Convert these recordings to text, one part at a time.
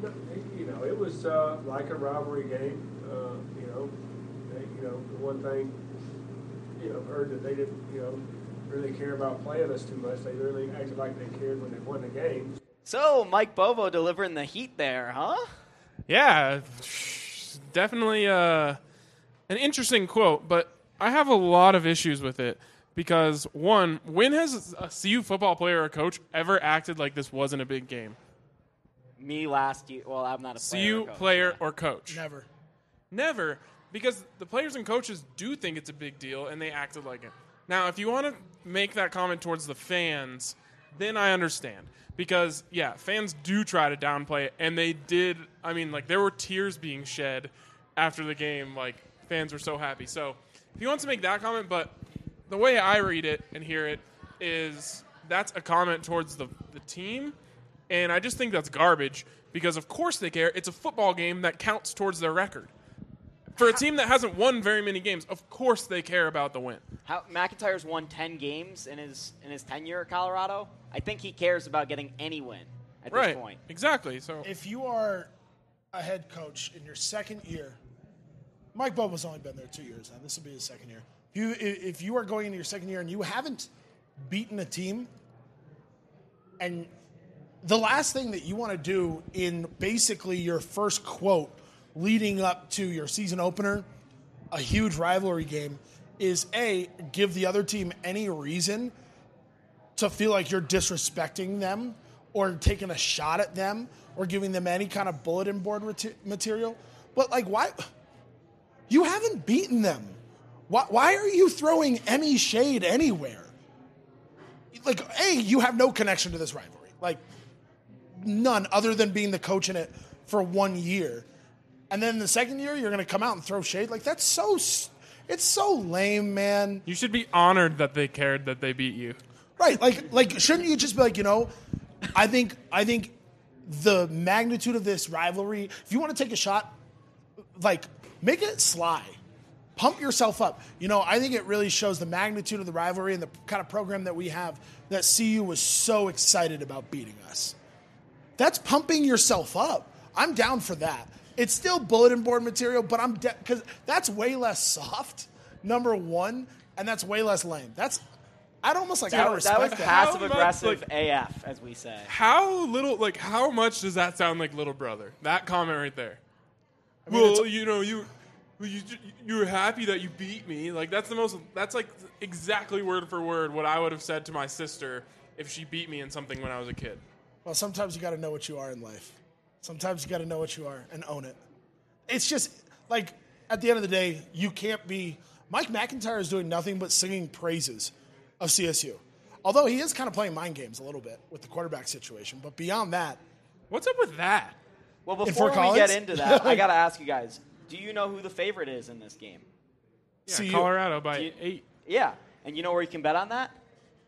It was like a rivalry game. The one thing, heard that they didn't, really care about playing us too much. They really acted like they cared when they won the game. So, Mike Bobo delivering the heat there, huh? Yeah, definitely an interesting quote, but I have a lot of issues with it because, one, when has a CU football player or coach ever acted like this wasn't a big game? Me last year. Well, I'm not a player. CU player or coach? Never. Because the players and coaches do think it's a big deal, and they acted like it. Now, if you want to make that comment towards the fans, then I understand. Because, yeah, fans do try to downplay it, and they did. I mean, there were tears being shed after the game. Fans were so happy. So, if he wants to make that comment, but the way I read it and hear it is that's a comment towards the team, and I just think that's garbage because, of course, they care. It's a football game that counts towards their record. For a team that hasn't won very many games, of course they care about the win. McIntyre's won 10 games in his tenure at Colorado. I think he cares about getting any win at this point. Exactly. So if you are a head coach in your second year, Mike Bobo's only been there 2 years now. This will be his second year. If you are going into your second year and you haven't beaten a team, and the last thing that you want to do in basically your first quote leading up to your season opener, a huge rivalry game, is A, give the other team any reason to feel like you're disrespecting them or taking a shot at them or giving them any kind of bulletin board material. But, why? You haven't beaten them. Why are you throwing any shade anywhere? A, you have no connection to this rivalry. None other than being the coach in it for 1 year. And then the second year, you're going to come out and throw shade? That's it's so lame, man. you should be honored that they cared that they beat you. Right. Shouldn't you just be I think the magnitude of this rivalry, if you want to take a shot, make it sly. Pump yourself up. I think it really shows the magnitude of the rivalry and the kind of program that we have that CU was so excited about beating us. That's pumping yourself up. I'm down for that. It's still bulletin board material, but because that's way less soft, number one, and that's way less lame. I'd almost out of respect that was passive aggressive AF, as we say. How much does that sound like Little Brother? That comment right there. I mean, you were happy that you beat me. That's exactly word for word what I would have said to my sister if she beat me in something when I was a kid. Well, sometimes you got to know what you are in life. Sometimes you got to know what you are and own it. It's just, at the end of the day, you can't be... Mike McIntyre is doing nothing but singing praises of CSU. Although he is kind of playing mind games a little bit with the quarterback situation. But beyond that... What's up with that? Well, before we get into that, I got to ask you guys, do you know who the favorite is in this game? Yeah, Colorado by 8. Yeah. And you know where you can bet on that?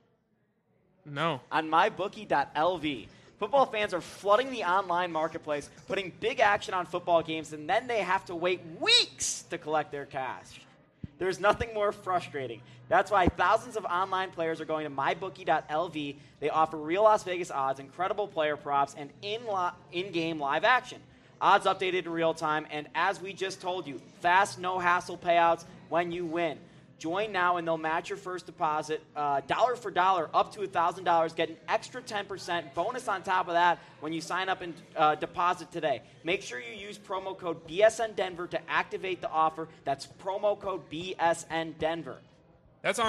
No. On mybookie.lv. Football fans are flooding the online marketplace, putting big action on football games, and then they have to wait weeks to collect their cash. There's nothing more frustrating. That's why thousands of online players are going to mybookie.lv. They offer real Las Vegas odds, incredible player props, and in-game live action. Odds updated in real time, and as we just told you, fast, no-hassle payouts when you win. Join now and they'll match your first deposit dollar for dollar up to $1,000. Get an extra 10% bonus on top of that when you sign up and deposit today. Make sure you use promo code BSN Denver to activate the offer. That's promo code BSN Denver. That's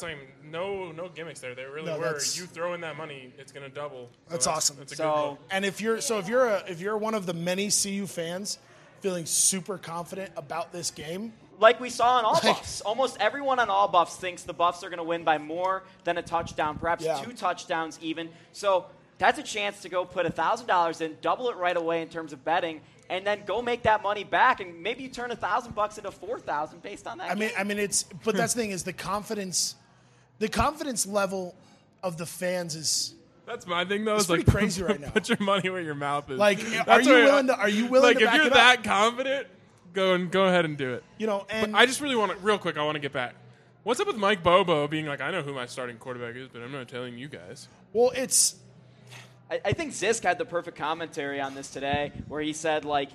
no gimmicks there. They really were. You throw in that money, it's going to double. So that's awesome. That's a good deal. And if you're one of the many CU fans feeling super confident about this game, like we saw on All Buffs. Almost everyone on All Buffs thinks the Buffs are going to win by more than a touchdown, perhaps 2 touchdowns even. So that's a chance to go put $1,000 in, double it right away in terms of betting, and then go make that money back, and maybe you turn $1,000 into $4,000 based on that. I mean, but that's the thing is the confidence level of the fans is. That's my thing, though. It's pretty crazy right now. Put your money where your mouth is. Are you willing to back it up? If you're that confident, go ahead and do it. And but I just really want to, real quick, I want to get back. What's up with Mike Bobo being like, I know who my starting quarterback is, but I'm not telling you guys? Well, I think Zisk had the perfect commentary on this today, where he said, like,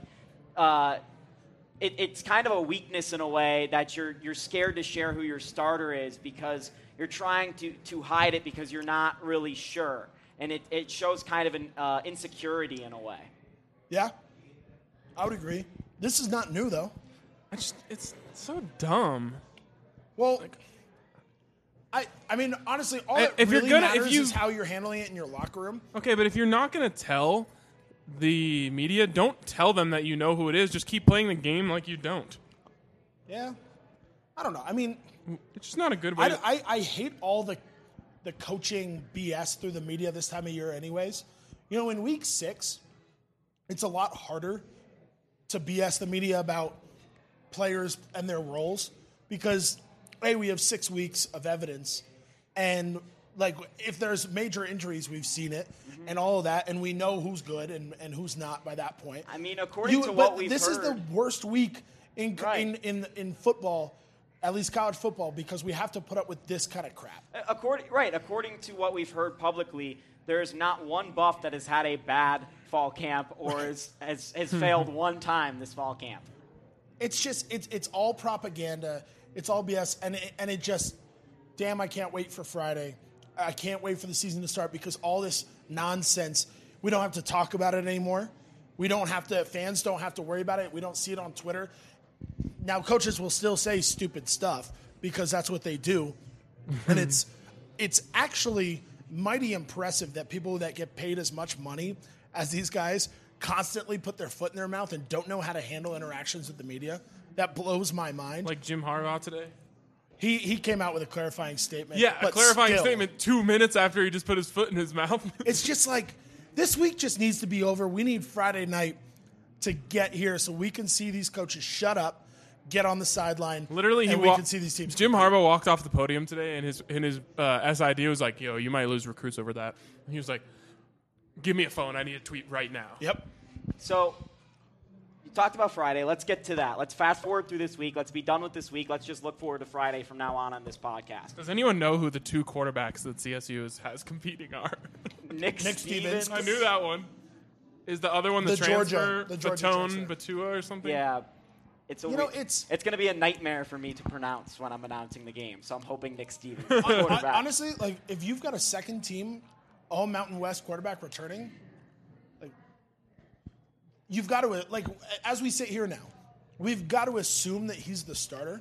it's kind of a weakness in a way that you're scared to share who your starter is because you're trying to hide it because you're not really sure. And it shows kind of an insecurity in a way. Yeah, I would agree. This is not new, though. It's so dumb. Well, I mean, honestly, all that really matters is how you're handling it in your locker room. Okay, but if you're not going to tell the media, don't tell them that you know who it is. Just keep playing the game like you don't. Yeah. I don't know. I mean, it's just not a good way. I hate all the coaching BS through the media this time of year anyways. You know, in week 6, it's a lot harder to BS the media about players and their roles because, A, we have 6 weeks of evidence, and like if there's major injuries, we've seen it, and all of that, and we know who's good and who's not by that point. I mean, according to what we've heard, this is the worst week in football, at least college football, because we have to put up with this kind of crap. According to what we've heard publicly, there's not one Buff that has had a bad fall camp or has failed one time this fall camp. It's just it's all propaganda. It's all BS, and it just, damn, I can't wait for Friday. I can't wait for the season to start because all this nonsense, we don't have to talk about it anymore. Fans don't have to worry about it. We don't see it on Twitter. Now, coaches will still say stupid stuff because that's what they do. And it's actually mighty impressive that people that get paid as much money as these guys constantly put their foot in their mouth and don't know how to handle interactions with the media. That blows my mind. Like Jim Harbaugh today? He came out with a clarifying statement. Yeah, but a clarifying still, statement 2 minutes after he just put his foot in his mouth. It's just like, this week just needs to be over. We need Friday night to get here so we can see these coaches shut up, get on the sideline. Literally, we can see these teams. Jim Harbaugh walked off the podium today, and his SID was like, "Yo, you might lose recruits over that." And he was like, "Give me a phone. I need a tweet right now." Yep. So you talked about Friday. Let's get to that. Let's fast forward through this week. Let's be done with this week. Let's just look forward to Friday from now on this podcast. Does anyone know who the 2 quarterbacks that CSU has competing are? Nick Stevens. I knew that one. Is the other one the transfer? The Georgia Batone Batua or something? Yeah. It's going to be a nightmare for me to pronounce when I'm announcing the game. So I'm hoping Nick Stevens is quarterback. Honestly, like if you've got a second team, all Mountain West quarterback returning, like you've got to, like, as we sit here now, we've got to assume that he's the starter.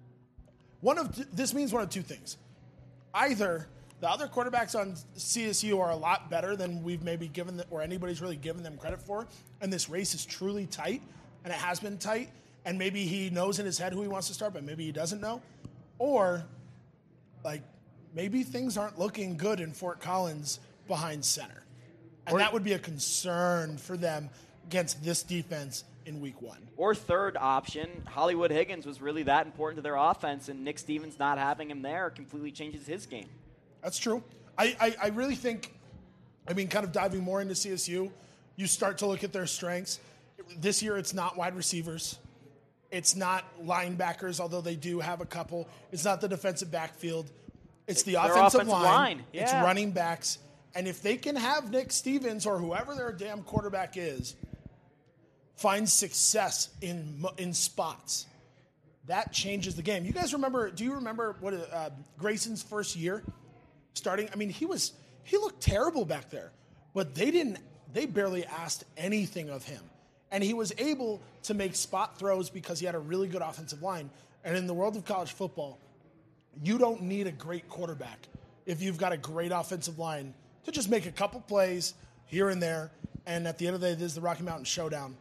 This means one of two things. Either the other quarterbacks on CSU are a lot better than we've maybe given or anybody's really given them credit for, and this race is truly tight, and it has been tight, and maybe he knows in his head who he wants to start, but maybe he doesn't know. Or, like, maybe things aren't looking good in Fort Collins behind center. And that would be a concern for them against this defense in week 1. Or third option, Hollywood Higgins was really that important to their offense, and Nick Stevens not having him there completely changes his game. That's true. I really think, I mean, kind of diving more into CSU, you start to look at their strengths. This year it's not wide receivers. It's not linebackers, although they do have a couple. It's not the defensive backfield. It's the offensive line. Yeah. It's running backs. And if they can have Nick Stevens or whoever their damn quarterback is find success in spots, that changes the game. You guys remember, do you remember what Grayson's first year starting? I mean, he looked terrible back there, but they barely asked anything of him. And he was able to make spot throws because he had a really good offensive line. And in the world of college football, you don't need a great quarterback if you've got a great offensive line to just make a couple plays here and there. And at the end of the day, this is the Rocky Mountain Showdown.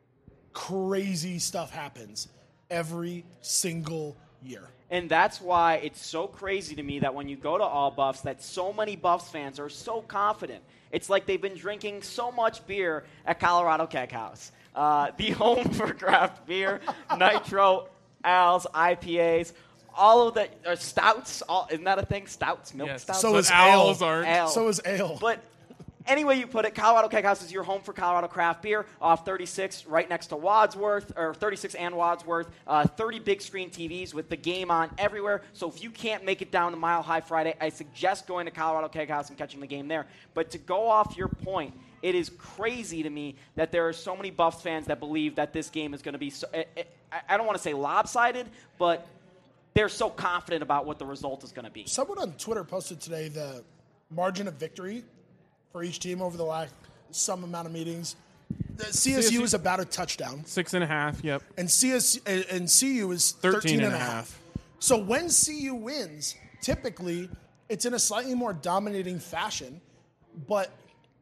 Crazy stuff happens every single year. And that's why it's so crazy to me that when you go to All Buffs, that so many Buffs fans are so confident. It's like they've been drinking so much beer at Colorado Keg House. The home for craft beer, Nitro, Al's, IPAs, all of the stouts. Isn't that a thing? Stouts, milk Yes. stouts. So is Owls ale. aren't. Ale. So is ale. But any way you put it, Colorado Kegghouse is your home for Colorado craft beer off 36 right next to Wadsworth, or 36 and Wadsworth. 30 big screen TVs with the game on everywhere. So if you can't make it down to Mile High Friday, I suggest going to Colorado Kegghouse and catching the game there. But to go off your point, it is crazy to me that there are so many Buffs fans that believe that this game is going to be so, I don't want to say lopsided, but they're so confident about what the result is going to be. Someone on Twitter posted today the margin of victory for each team over the last some amount of meetings. The CSU is about a touchdown. 6.5, yep. And CU is 13.5. So when CU wins, typically it's in a slightly more dominating fashion. But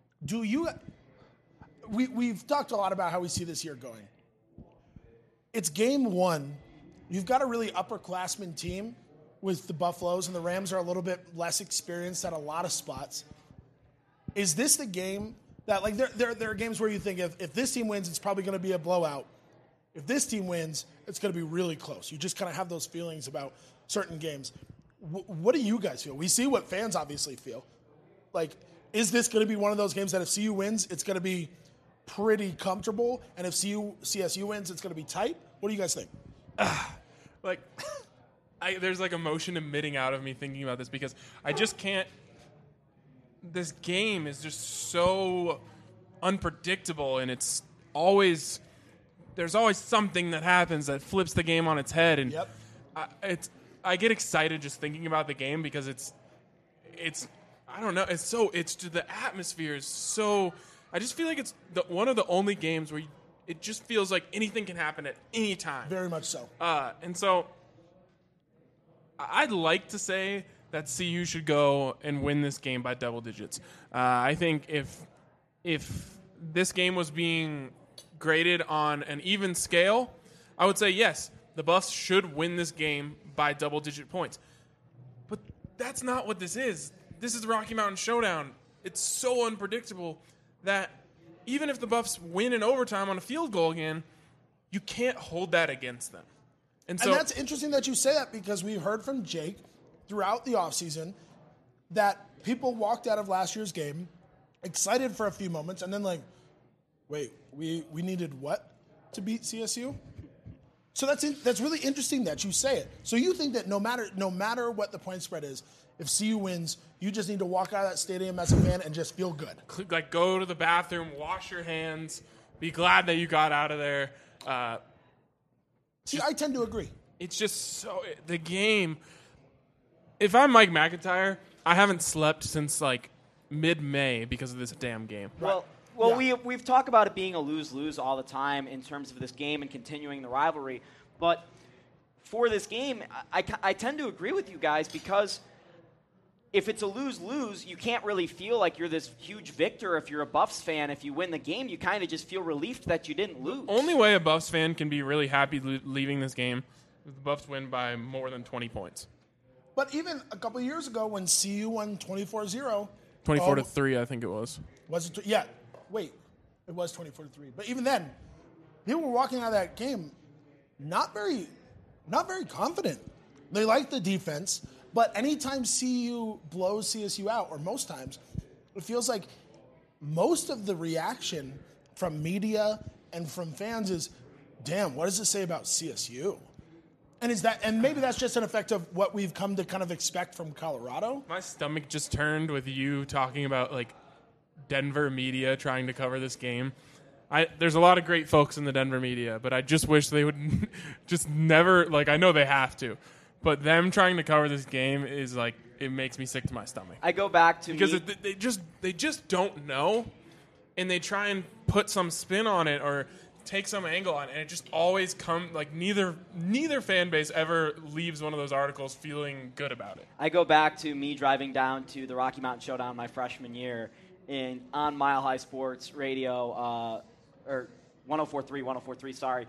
we've talked a lot about how we see this year going. It's game one. You've got a really upperclassman team with the Buffaloes, and the Rams are a little bit less experienced at a lot of spots. Is this the game that, like, there are games where you think if this team wins, it's probably going to be a blowout. If this team wins, it's going to be really close. You just kind of have those feelings about certain games. What do you guys feel? We see what fans obviously feel. Like, is this going to be one of those games that if CU wins, it's going to be pretty comfortable, and if CSU wins, it's going to be tight? What do you guys think? Like, there's like emotion emitting out of me thinking about this because I just can't. This game is just so unpredictable, and there's always something that happens that flips the game on its head, and Yep. I get excited just thinking about the game because it's I don't know, it's the atmosphere is so. I just feel like it's one of the only games where it just feels like anything can happen at any time. Very much so. And so I'd like to say that CU should go and win this game by double digits. I think if this game was being graded on an even scale, I would say yes, the Buffs should win this game by double-digit points. But that's not what this is. This is the Rocky Mountain Showdown. It's so unpredictable that even if the Buffs win in overtime on a field goal again, you can't hold that against them. And so that's interesting that you say that because we heard from Jake throughout the offseason that people walked out of last year's game excited for a few moments and then like, wait, we needed what to beat CSU? So that's really interesting that you say it. So you think that no matter what the point spread is, if CU wins, you just need to walk out of that stadium as a fan and just feel good. Like, go to the bathroom, wash your hands, be glad that you got out of there. See, I tend to agree. It's just so the game. If I'm Mike McIntyre, I haven't slept since like mid-May because of this damn game. Well, Yeah. we've talked about it being a lose-lose all the time in terms of this game and continuing the rivalry. But for this game, I tend to agree with you guys because if it's a lose-lose, you can't really feel like you're this huge victor if you're a Buffs fan. If you win the game, you kind of just feel relieved that you didn't lose. Only way a Buffs fan can be really happy leaving this game is the Buffs win by more than 20 points. But even a couple of years ago when CU won 24-0. 24-3, I think it was. Was it? Yeah. Wait. It was 24-3. But even then, people were walking out of that game not very confident. They liked the defense, but anytime CU blows CSU out, or most times, it feels like most of the reaction from media and from fans is, damn, what does it say about CSU? And maybe that's just an effect of what we've come to kind of expect from Colorado. My stomach just turned with you talking about like Denver media trying to cover this game. There's a lot of great folks in the Denver media, but I just wish they would just never, like, I know they have to, but them trying to cover this game is like, it makes me sick to my stomach. I go back to because they just don't know, and they try and put some spin on it or take some angle on it, and it just always comes like neither fan base ever leaves one of those articles feeling good about it. I go back to me driving down to the Rocky Mountain Showdown my freshman year on Mile High Sports Radio, or 104.3, sorry.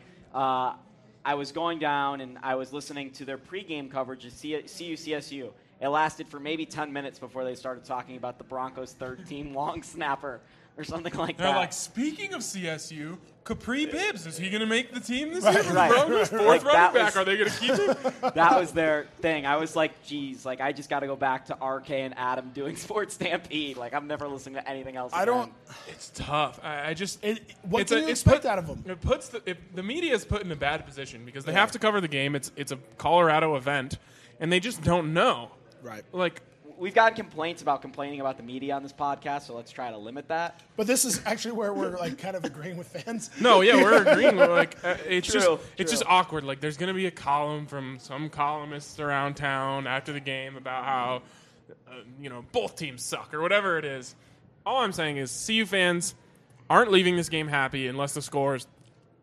I was going down and I was listening to their pregame coverage of CU-CSU. It lasted for maybe 10 minutes before they started talking about the Broncos' third-team long snapper. or something like They're that. like, speaking of CSU, Capri Bibbs, is he going to make the team this Right, year for the right. Broncos? Fourth Like, that running back. was- Are they going to keep him? That was their thing. I was like, geez, like I just got to go back to RK and Adam doing Sports Stampede. Like I'm never listening to anything else. I don't. It's tough. I just. What it's can a- you it's expect put- out of them? It puts the media is put in a bad position because they have to cover the game. It's a Colorado event, and they just don't know. Right. Like, We've gotten complaints about complaining about the media on this podcast, so let's try to limit that. But this is actually where we're like kind of agreeing with fans. no, yeah, we're agreeing. We're like, it's True, it's just true. awkward. Like, there's gonna be a column from some columnists around town after the game about how, both teams suck or whatever it is. All I'm saying is, CU fans aren't leaving this game happy unless the score is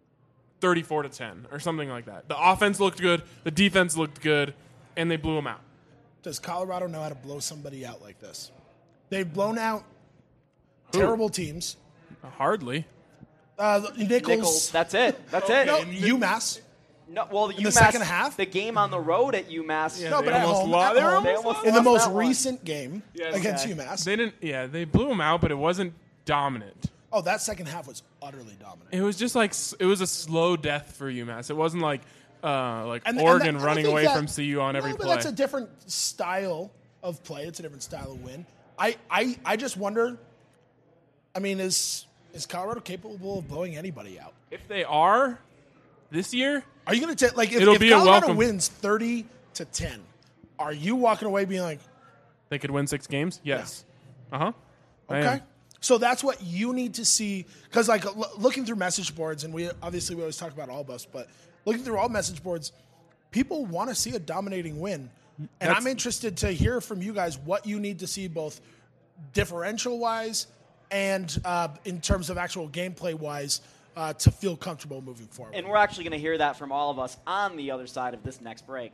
34-10 or something like that. The offense looked good, the defense looked good, and they blew them out. Does Colorado know how to blow somebody out like this? They've blown out terrible teams. Hardly. Nichols, that's it. That's it. No, UMass. No, well, In the UMass, second half? the game on the road at UMass. Yeah, No, they but at almost home. lost- At they home. They almost In the lost most that one. recent game against okay. UMass. They didn't. Yeah, they blew them out, but it wasn't dominant. Oh, that second half was utterly dominant. It was just like it was a slow death for UMass. It wasn't like And Oregon I running think away that- from CU on every no, but play. that's a different style of play. It's a different style of win. I just wonder. I mean, is Colorado capable of blowing anybody out? If they are this year, Are you going to take like if, It'll if be a Colorado welcome- wins 30-10? Are you walking away being like, they could win 6 games. Yes. Uh huh. okay? So that's what you need to see because like looking through message boards, and we always talk about all of us, but looking through all message boards, people want to see a dominating win, and That's- I'm interested to hear from you guys what you need to see both differential wise and in terms of actual gameplay wise to feel comfortable moving forward. And we're actually going to hear that from all of us on the other side of this next break.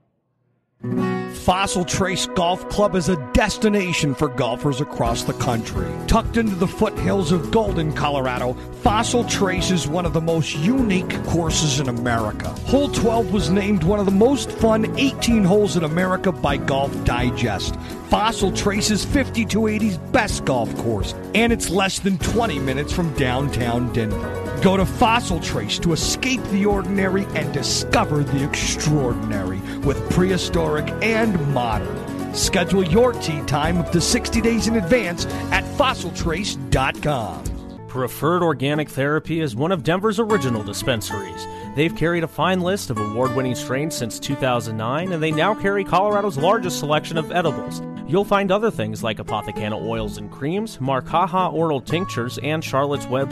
Fossil Trace Golf Club is a destination for golfers across the country. Tucked into the foothills of Golden, Colorado, Fossil Trace is one of the most unique courses in America. Hole 12 was named one of the most fun 18 holes in America by Golf Digest. Fossil Trace is 5280's best golf course, and it's less than 20 minutes from downtown Denver. Go to Fossil Trace to escape the ordinary and discover the extraordinary with prehistoric and modern. Schedule your tee time up to 60 days in advance at fossiltrace.com. Preferred Organic Therapy is one of Denver's original dispensaries. They've carried a fine list of award-winning strains since 2009, and they now carry Colorado's largest selection of edibles. You'll find other things like Apothecana oils and creams, Marcaja oral tinctures, and Charlotte's Web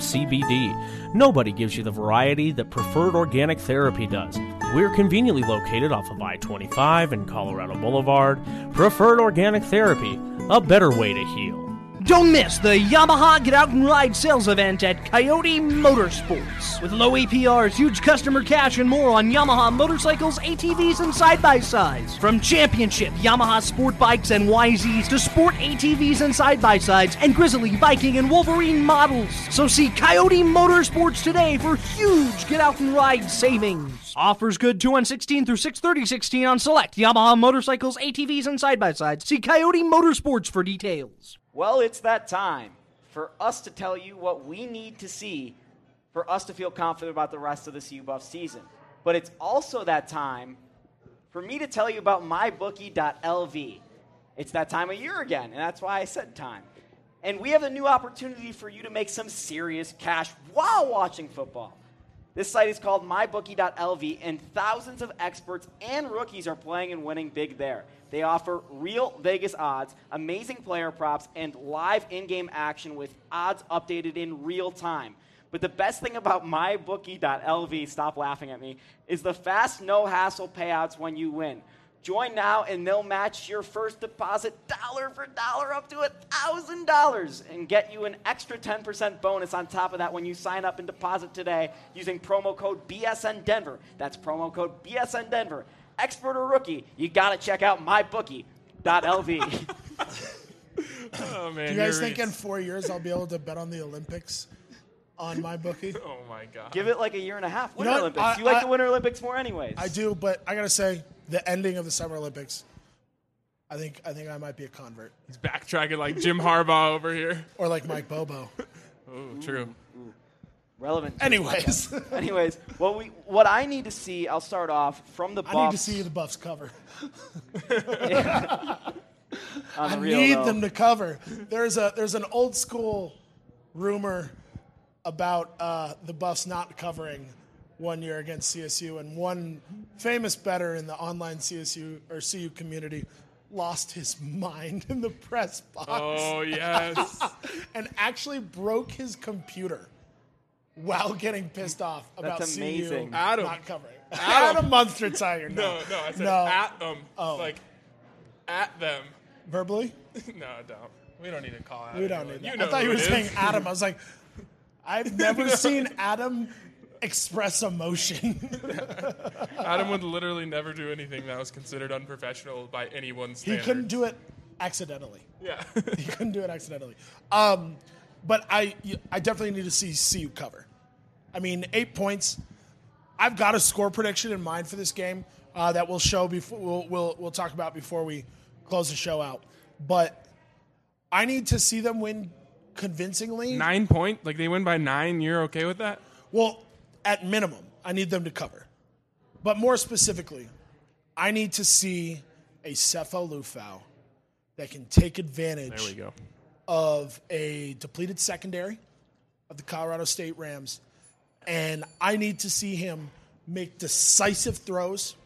CBD. Nobody gives you the variety that Preferred Organic Therapy does. We're conveniently located off of I-25 and Colorado Boulevard. Preferred Organic Therapy, a better way to heal. Don't miss the Yamaha Get Out and Ride sales event at Coyote Motorsports. With low APRs, huge customer cash, and more on Yamaha motorcycles, ATVs, and side-by-sides. From championship Yamaha sport bikes and YZs to sport ATVs and side-by-sides and Grizzly, Viking, and Wolverine models. So see Coyote Motorsports today for huge Get Out and Ride savings. Offers good 2/1/16 through 6/30/16 on select Yamaha motorcycles, ATVs, and side-by-sides. See Coyote Motorsports for details. Well, it's that time for us to tell you what we need to see for us to feel confident about the rest of the CU Buff season. But it's also that time for me to tell you about mybookie.lv. It's that time of year again, and that's why I said time. And we have a new opportunity for you to make some serious cash while watching football. This site is called mybookie.lv, and thousands of experts and rookies are playing and winning big there. They offer real Vegas odds, amazing player props, and live in-game action with odds updated in real time. But the best thing about mybookie.lv, stop laughing at me, is the fast, no-hassle payouts when you win. Join now, and they'll match your first deposit dollar for dollar up to $1,000 and get you an extra 10% bonus on top of that when you sign up and deposit today using promo code BSNDenver. That's promo code BSNDenver. Expert or rookie, you got to check out mybookie.lv. Oh man! Do you guys you're- think in 4 years I'll be able to bet on the Olympics on my bookie? Oh my god! Give it like a year and a half. Winter know what? Olympics. You like the Winter Olympics more anyways. I do, but I gotta say, the ending of the Summer Olympics, I think I might be a convert, He's backtracking like Jim Harbaugh over here. or like Mike Bobo. Ooh, true. Relevant. Anyways, what I need to see, I'll start off from the Buffs. I need to see the Buffs cover. I real, need though. them to cover. There's an old school rumor about the Buffs not covering one year against CSU, and one famous bettor in the online CSU or CU community lost his mind in the press box. Oh, yes. And actually broke his computer while getting pissed off about That's CU amazing. Adam. not covering. Adam Munsterteiger. No, I said No. at them. Oh. Like, at them. Verbally? No, don't. We don't need to call out We don't anyone. need that. You know I thought who you were it saying is. Adam. I was like, I've never seen Adam express emotion. Adam would literally never do anything that was considered unprofessional by anyone's He standards. couldn't do it accidentally. Yeah. He couldn't do it accidentally. But I definitely need to see CU cover. I mean, 8 points. I've got a score prediction in mind for this game that we'll show before we'll talk about before we close the show out. But I need to see them win convincingly. 9 point? Like, they win by 9? You're okay with that? Well, at minimum, I need them to cover. But more specifically, I need to see a Sefo Lufau that can take advantage There we go. of a depleted secondary of the Colorado State Rams. And I need to see him make decisive throws.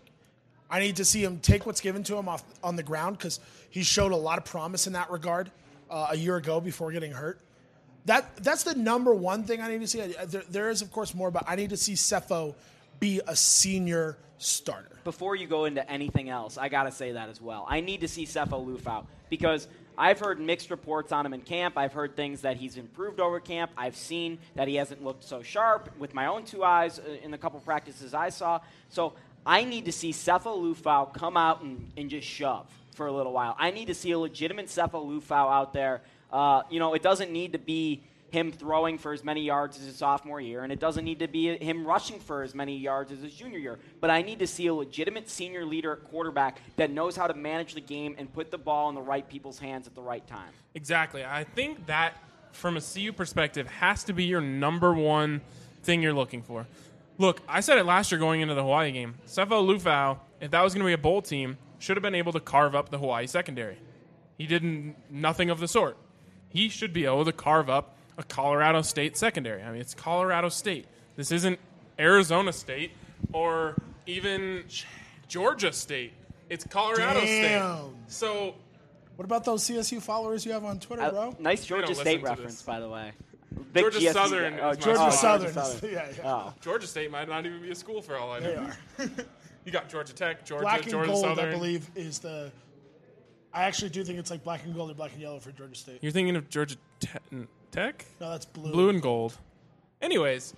I need to see him take what's given to him on the ground because he showed a lot of promise in that regard a year ago before getting hurt. That's the number one thing I need to see. There is, of course, more, but I need to see Sefo be a senior starter. Before you go into anything else, I got to say that as well. I need to see Sefo Lufau because I've heard mixed reports on him in camp. I've heard things that he's improved over camp. I've seen that he hasn't looked so sharp with my own two eyes in the couple practices I saw. So I need to see Sefo Lufau come out and just shove for a little while. I need to see a legitimate Sefo Lufau out there. It doesn't need to be him throwing for as many yards as his sophomore year, and it doesn't need to be him rushing for as many yards as his junior year. But I need to see a legitimate senior leader at quarterback that knows how to manage the game and put the ball in the right people's hands at the right time. Exactly. I think that, from a CU perspective, has to be your number one thing you're looking for. Look, I said it last year going into the Hawaii game. Sefo Lufau, if that was going to be a bowl team, should have been able to carve up the Hawaii secondary. He did nothing of the sort. He should be able to carve up a Colorado State secondary. I mean, it's Colorado State. This isn't Arizona State or even Georgia State. It's Colorado State. So, What about those CSU followers you have on Twitter, bro? Nice Georgia don't listen State to reference, this. by the way. Big Georgia GSU Southern guy. is my Georgia squad. Southern. Yeah. Oh. Georgia State might not even be a school for all I know. They are. You got Georgia Tech, Georgia, Black and Georgia gold, Southern. I believe, is the. I actually do think it's like black and gold or black and yellow for Georgia State. You're thinking of Georgia Tech? No, that's blue. Blue and gold. Anyways,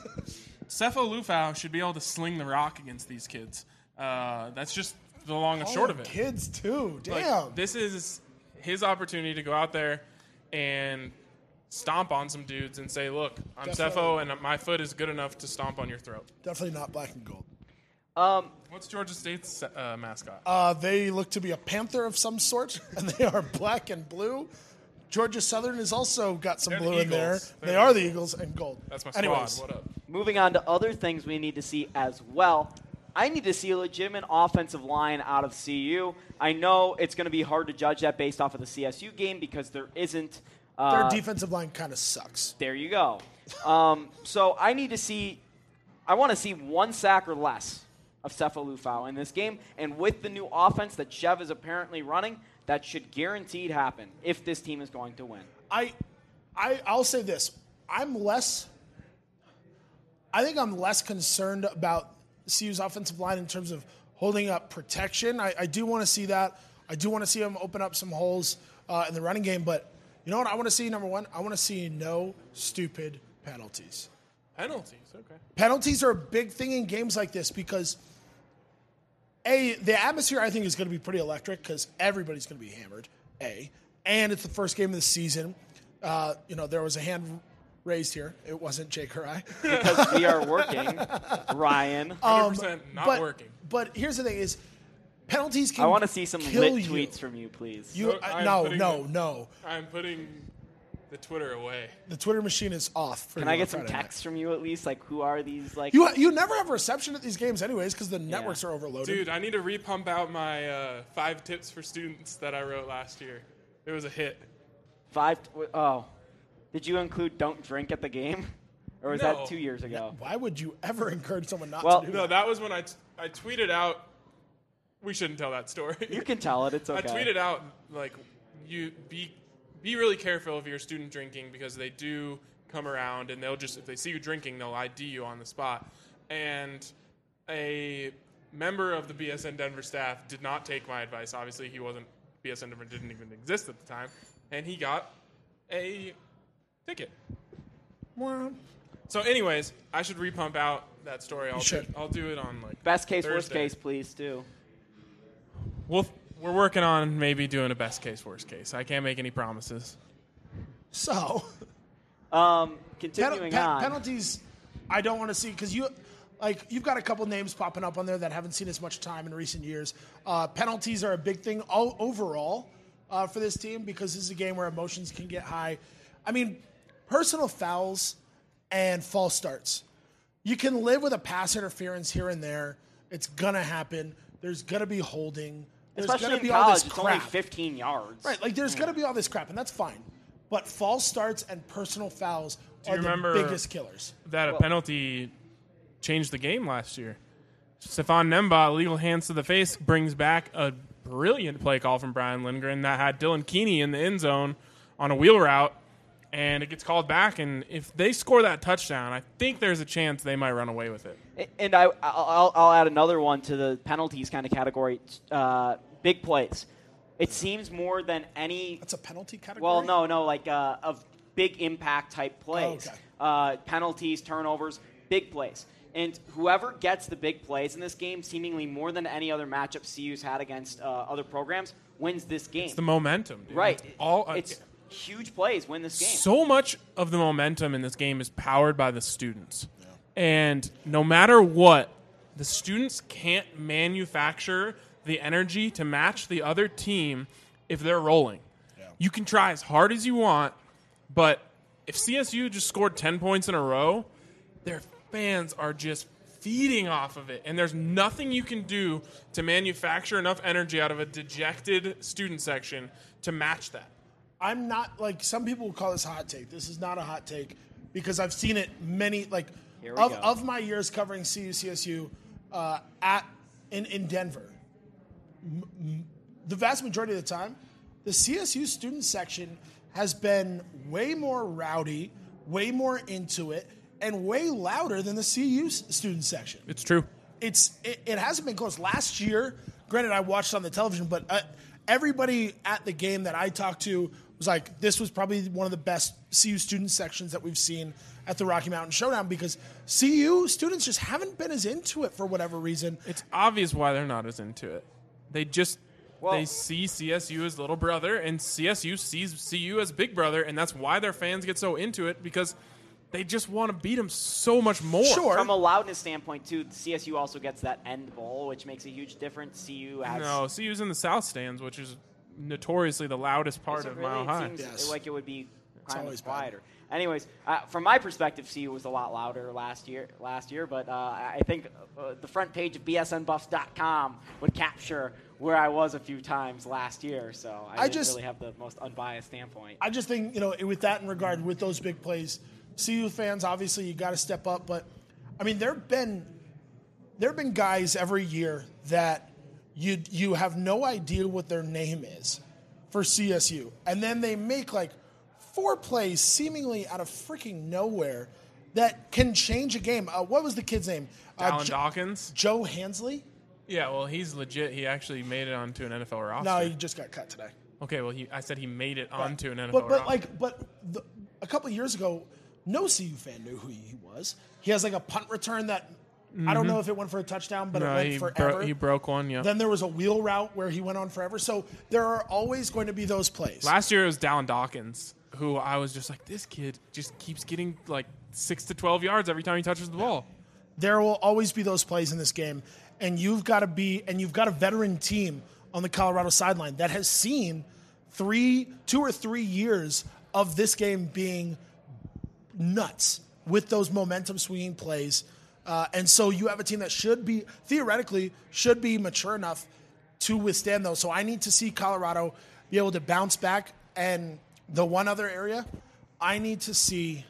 Sefo Lufau should be able to sling the rock against these kids. That's just the long and short of it. Kids too. Like, Damn. this is his opportunity to go out there and stomp on some dudes and say, look, I'm Definitely. Sefo, and my foot is good enough to stomp on your throat. Definitely not black and gold. What's Georgia State's mascot? They look to be a panther of some sort, and they are black and blue. Georgia Southern has also got some They're the blue in there. Eagles. They are the Eagles and gold. That's my squad. Anyways, What up? Moving on to other things we need to see as well. I need to see a legitimate offensive line out of CU. I know it's going to be hard to judge that based off of the CSU game because there isn't. their defensive line kind of sucks. There you go. So I need to see. I want to see one sack or less of Sefo Lufau in this game, and with the new offense that Chev is apparently running, that should guaranteed happen if this team is going to win. I'll say this. I think I'm less concerned about CU's offensive line in terms of holding up protection. I do want to see that. I do want to see them open up some holes in the running game. But you know what I want to see, number one? I want to see no stupid penalties. Penalties, okay. Penalties are a big thing in games like this because, the atmosphere I think is going to be pretty electric because everybody's going to be hammered, and it's the first game of the season. There was a hand raised here. It wasn't Jake or I. Because we are working, Ryan. 100% not working. But here's the thing is, penalties can I want to see some kill lit you. tweets from you, please. You, So I'm no. putting the Twitter away. The Twitter machine is off. Can I get some texts from you at least? Like, who are these? Like, you never have reception at these games anyways because the networks are overloaded. Dude, I need to repump out my 5 tips for students that I wrote last year. It was a hit. 5. Oh, did you include don't drink at the game, or was No. that 2 years ago? Why would you ever encourage someone not Well, to do No, that? that was when I tweeted out. We shouldn't tell that story. You can tell it. It's okay. I tweeted out like, you be really careful if you're a student drinking because they do come around and they'll just, if they see you drinking, they'll ID you on the spot. And a member of the BSN Denver staff did not take my advice. Obviously, BSN Denver didn't even exist at the time, and he got a ticket. So, anyways, I should repump out that story. I'll do it on like Best case, Thursday. worst case, please do. We're working on maybe doing a best case, worst case. I can't make any promises. So, Continuing on. penalties, I don't want to see because you've got a couple names popping up on there that haven't seen as much time in recent years. Penalties are a big thing overall for this team because this is a game where emotions can get high. I mean, personal fouls and false starts. You can live with a pass interference here and there. It's gonna happen. There's gonna be holding. There's Especially gonna in be all college, this it's crap. only 15 yards. Right, like there's going to be all this crap, and that's fine. But false starts and personal fouls you are the remember biggest killers. That a penalty changed the game last year. Stefan Nemba, illegal hands to the face, brings back a brilliant play call from Brian Lindgren that had Dylan Keeney in the end zone on a wheel route, and it gets called back. And if they score that touchdown, I think there's a chance they might run away with it. And I'll add another one to the penalties kind of category. Big plays. It seems more than any. That's a penalty category? Well, no, like of big impact type plays. Oh, okay. Penalties, turnovers, big plays. And whoever gets the big plays in this game, seemingly more than any other matchup CU's had against other programs, wins this game. It's the momentum, dude. Right. It's It's huge plays win this game. so much of the momentum in this game is powered by the students. Yeah. And no matter what, the students can't manufacture the energy to match the other team if they're rolling. Yeah. You can try as hard as you want, but if CSU just scored 10 points in a row, their fans are just feeding off of it. And there's nothing you can do to manufacture enough energy out of a dejected student section to match that. I'm not, like, some people will call this a hot take. This is not a hot take because I've seen it many, like, of my years covering CSU in Denver. The vast majority of the time, the CSU student section has been way more rowdy, way more into it, and way louder than the CU student section. It's true. It hasn't been close. Last year, granted, I watched on the television, but everybody at the game that I talked to was like, this was probably one of the best CU student sections that we've seen at the Rocky Mountain Showdown because CU students just Haven't been as into it for whatever reason. It's obvious why they're not as into it. They see CSU as little brother, and CSU sees CU as big brother, and that's why their fans get so into it because they just want to beat them so much more. Sure. From a loudness standpoint, too, CSU also gets that end bowl, which makes a huge difference. CU has. No, CU's in the south stands, which is notoriously the loudest part of Mile High. It seems like it would be kind always of quieter. Anyways, from my perspective, CU was a lot louder last year, but I think the front page of bsnbuffs.com would capture where I was a few times last year, so I didn't really have the most unbiased standpoint. I just think, with that in regard, with those big plays, CU fans, obviously, you got to step up. But, I mean, there have been guys every year that you have no idea what their name is for CSU. And then they make, 4 plays seemingly out of freaking nowhere that can change a game. What was the kid's name? Alan Dawkins? Joe Hansley? Yeah, well, he's legit. He actually made it onto an NFL roster. No, he just got cut today. Okay, well, I said he made it onto an NFL roster. But a couple of years ago, no CU fan knew who he was. He has a punt return that I don't know if it went for a touchdown, but it went forever. He broke one, yeah. Then there was a wheel route where he went on forever. So there are always going to be those plays. Last year it was Dallin Dawkins, who I was just like, this kid just keeps getting 6 to 12 yards every time he touches the ball. There will always be those plays in this game, and you've got a veteran team on the Colorado sideline that has seen 2 or 3 years of this game being nuts with those momentum swinging plays. And so you have a team that theoretically should be mature enough to withstand those. So I need to see Colorado be able to bounce back. And the one other area, I need to see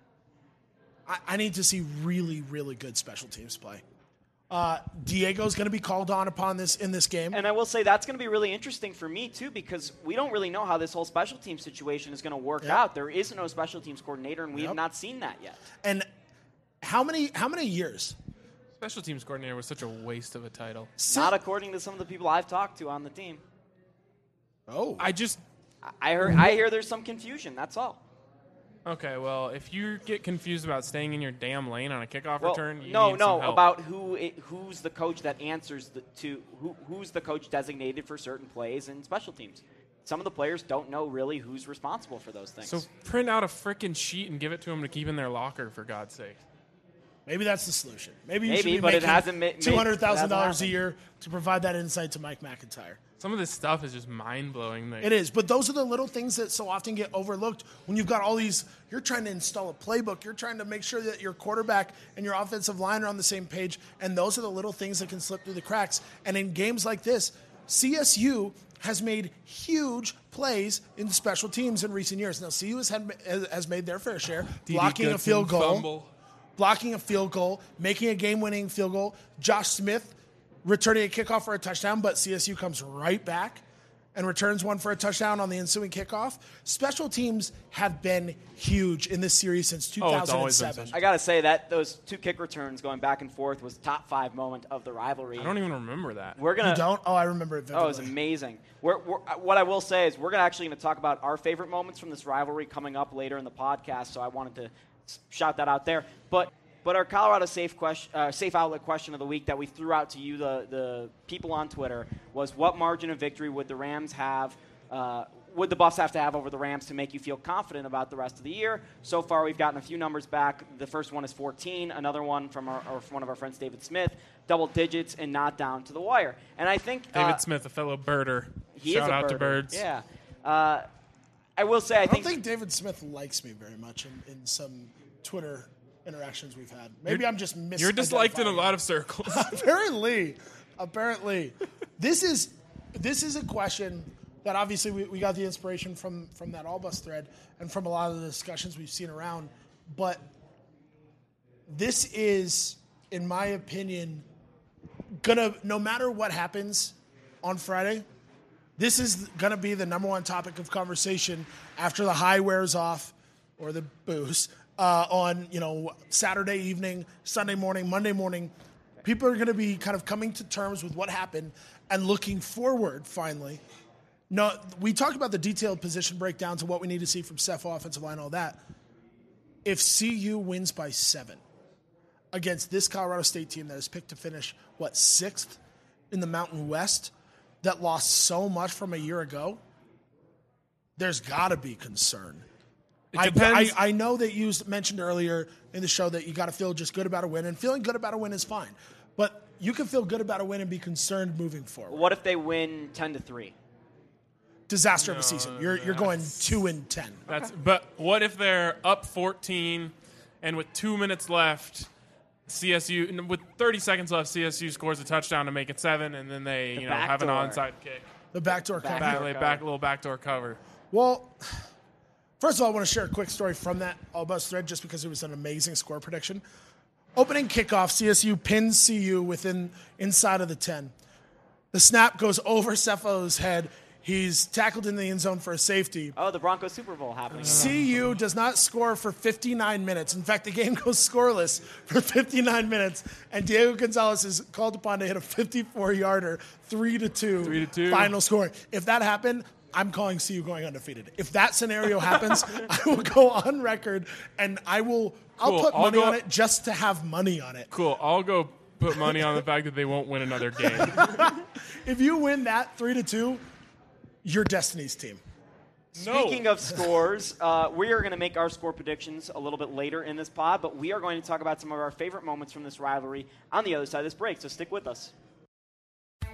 really, really good special teams play. Diego's going to be called on upon in this game. And I will say that's going to be really interesting for me, too, because we don't really know how this whole special team situation is going to work out. There is no special teams coordinator, and we have not seen that yet. And how many years? Special teams coordinator was such a waste of a title. Not according to some of the people I've talked to on the team. Oh. I hear there's some confusion, that's all. Okay, well, if you get confused about staying in your damn lane on a kickoff return, you need some help. About who's the coach that answers who's the coach designated for certain plays and special teams. Some of the players don't know really who's responsible for those things. So print out a frickin' sheet and give it to them to keep in their locker, for God's sake. Maybe that's the solution. Maybe you should be but making it hasn't $200,000 a year to provide that insight to Mike McIntyre. Some of this stuff is just mind-blowing. It is, but those are the little things that so often get overlooked when you've got all these, you're trying to install a playbook, you're trying to make sure that your quarterback and your offensive line are on the same page, and those are the little things that can slip through the cracks. And in games like this, CSU has made huge plays in special teams in recent years. Now, CU has made their fair share, blocking a field goal, making a game-winning field goal. Josh Smith returning a kickoff for a touchdown, but CSU comes right back and returns one for a touchdown on the ensuing kickoff. Special teams have been huge in this series since 2007. I got to say that those two kick returns going back and forth was top 5 moment of the rivalry. I don't even remember that. You don't? Oh, I remember it vividly. Oh, it was amazing. What I will say is we're actually going to talk about our favorite moments from this rivalry coming up later in the podcast, so I wanted to shout that out there. But our Colorado Safe Outlet question of the week that we threw out to you, the people on Twitter, was what margin of victory would the Rams have, would the Buffs have to have over the Rams to make you feel confident about the rest of the year? So far, we've gotten a few numbers back. The first one is 14. Another one from one of our friends, David Smith, double digits and not down to the wire. And I think David Smith, a fellow birder. Shout out to birds. Yeah. I will say, I don't think David Smith likes me very much in some Twitter interactions we've had. Maybe I'm just missing. You're disliked in a lot of circles. Apparently. This is a question that obviously we got the inspiration from that Allbus thread and from a lot of the discussions we've seen around. But this is, in my opinion, no matter what happens on Friday, this is gonna be the number one topic of conversation after the high wears off or the booze. On Saturday evening, Sunday morning, Monday morning, people are going to be kind of coming to terms with what happened and looking forward finally. No, we talked about the detailed position breakdowns and what we need to see from Cepho offensive line, all that. If CU wins by 7 against this Colorado State team that is picked to finish 6th in the Mountain West, that lost so much from a year ago, there's got to be concern. I know that you mentioned earlier in the show that you got to feel just good about a win, and feeling good about a win is fine. But you can feel good about a win and be concerned moving forward. What if they win 10-3? Disaster of a season. You're going 2-10. But what if they're up 14 and with 2 minutes left, with 30 seconds left, CSU scores a touchdown to make it 7, and then they have an onside kick. The backdoor cover. Little backdoor cover. Well, first of all, I want to share a quick story from that Allbus thread just because it was an amazing score prediction. Opening kickoff, CSU pins CU inside of the 10. The snap goes over Cepho's head. He's tackled in the end zone for a safety. Oh, the Broncos Super Bowl happening. CU does not score for 59 minutes. In fact, the game goes scoreless for 59 minutes, and Diego Gonzalez is called upon to hit a 54-yarder, 3-2 final score. If that happened, I'm calling CU going undefeated. If that scenario happens, I will go on record and I'll put money on it just to have money on it. Cool. I'll go put money on the fact that they won't win another game. If you win that 3-2, you're Destiny's team. Speaking of scores, we are going to make our score predictions a little bit later in this pod, but we are going to talk about some of our favorite moments from this rivalry on the other side of this break, so stick with us.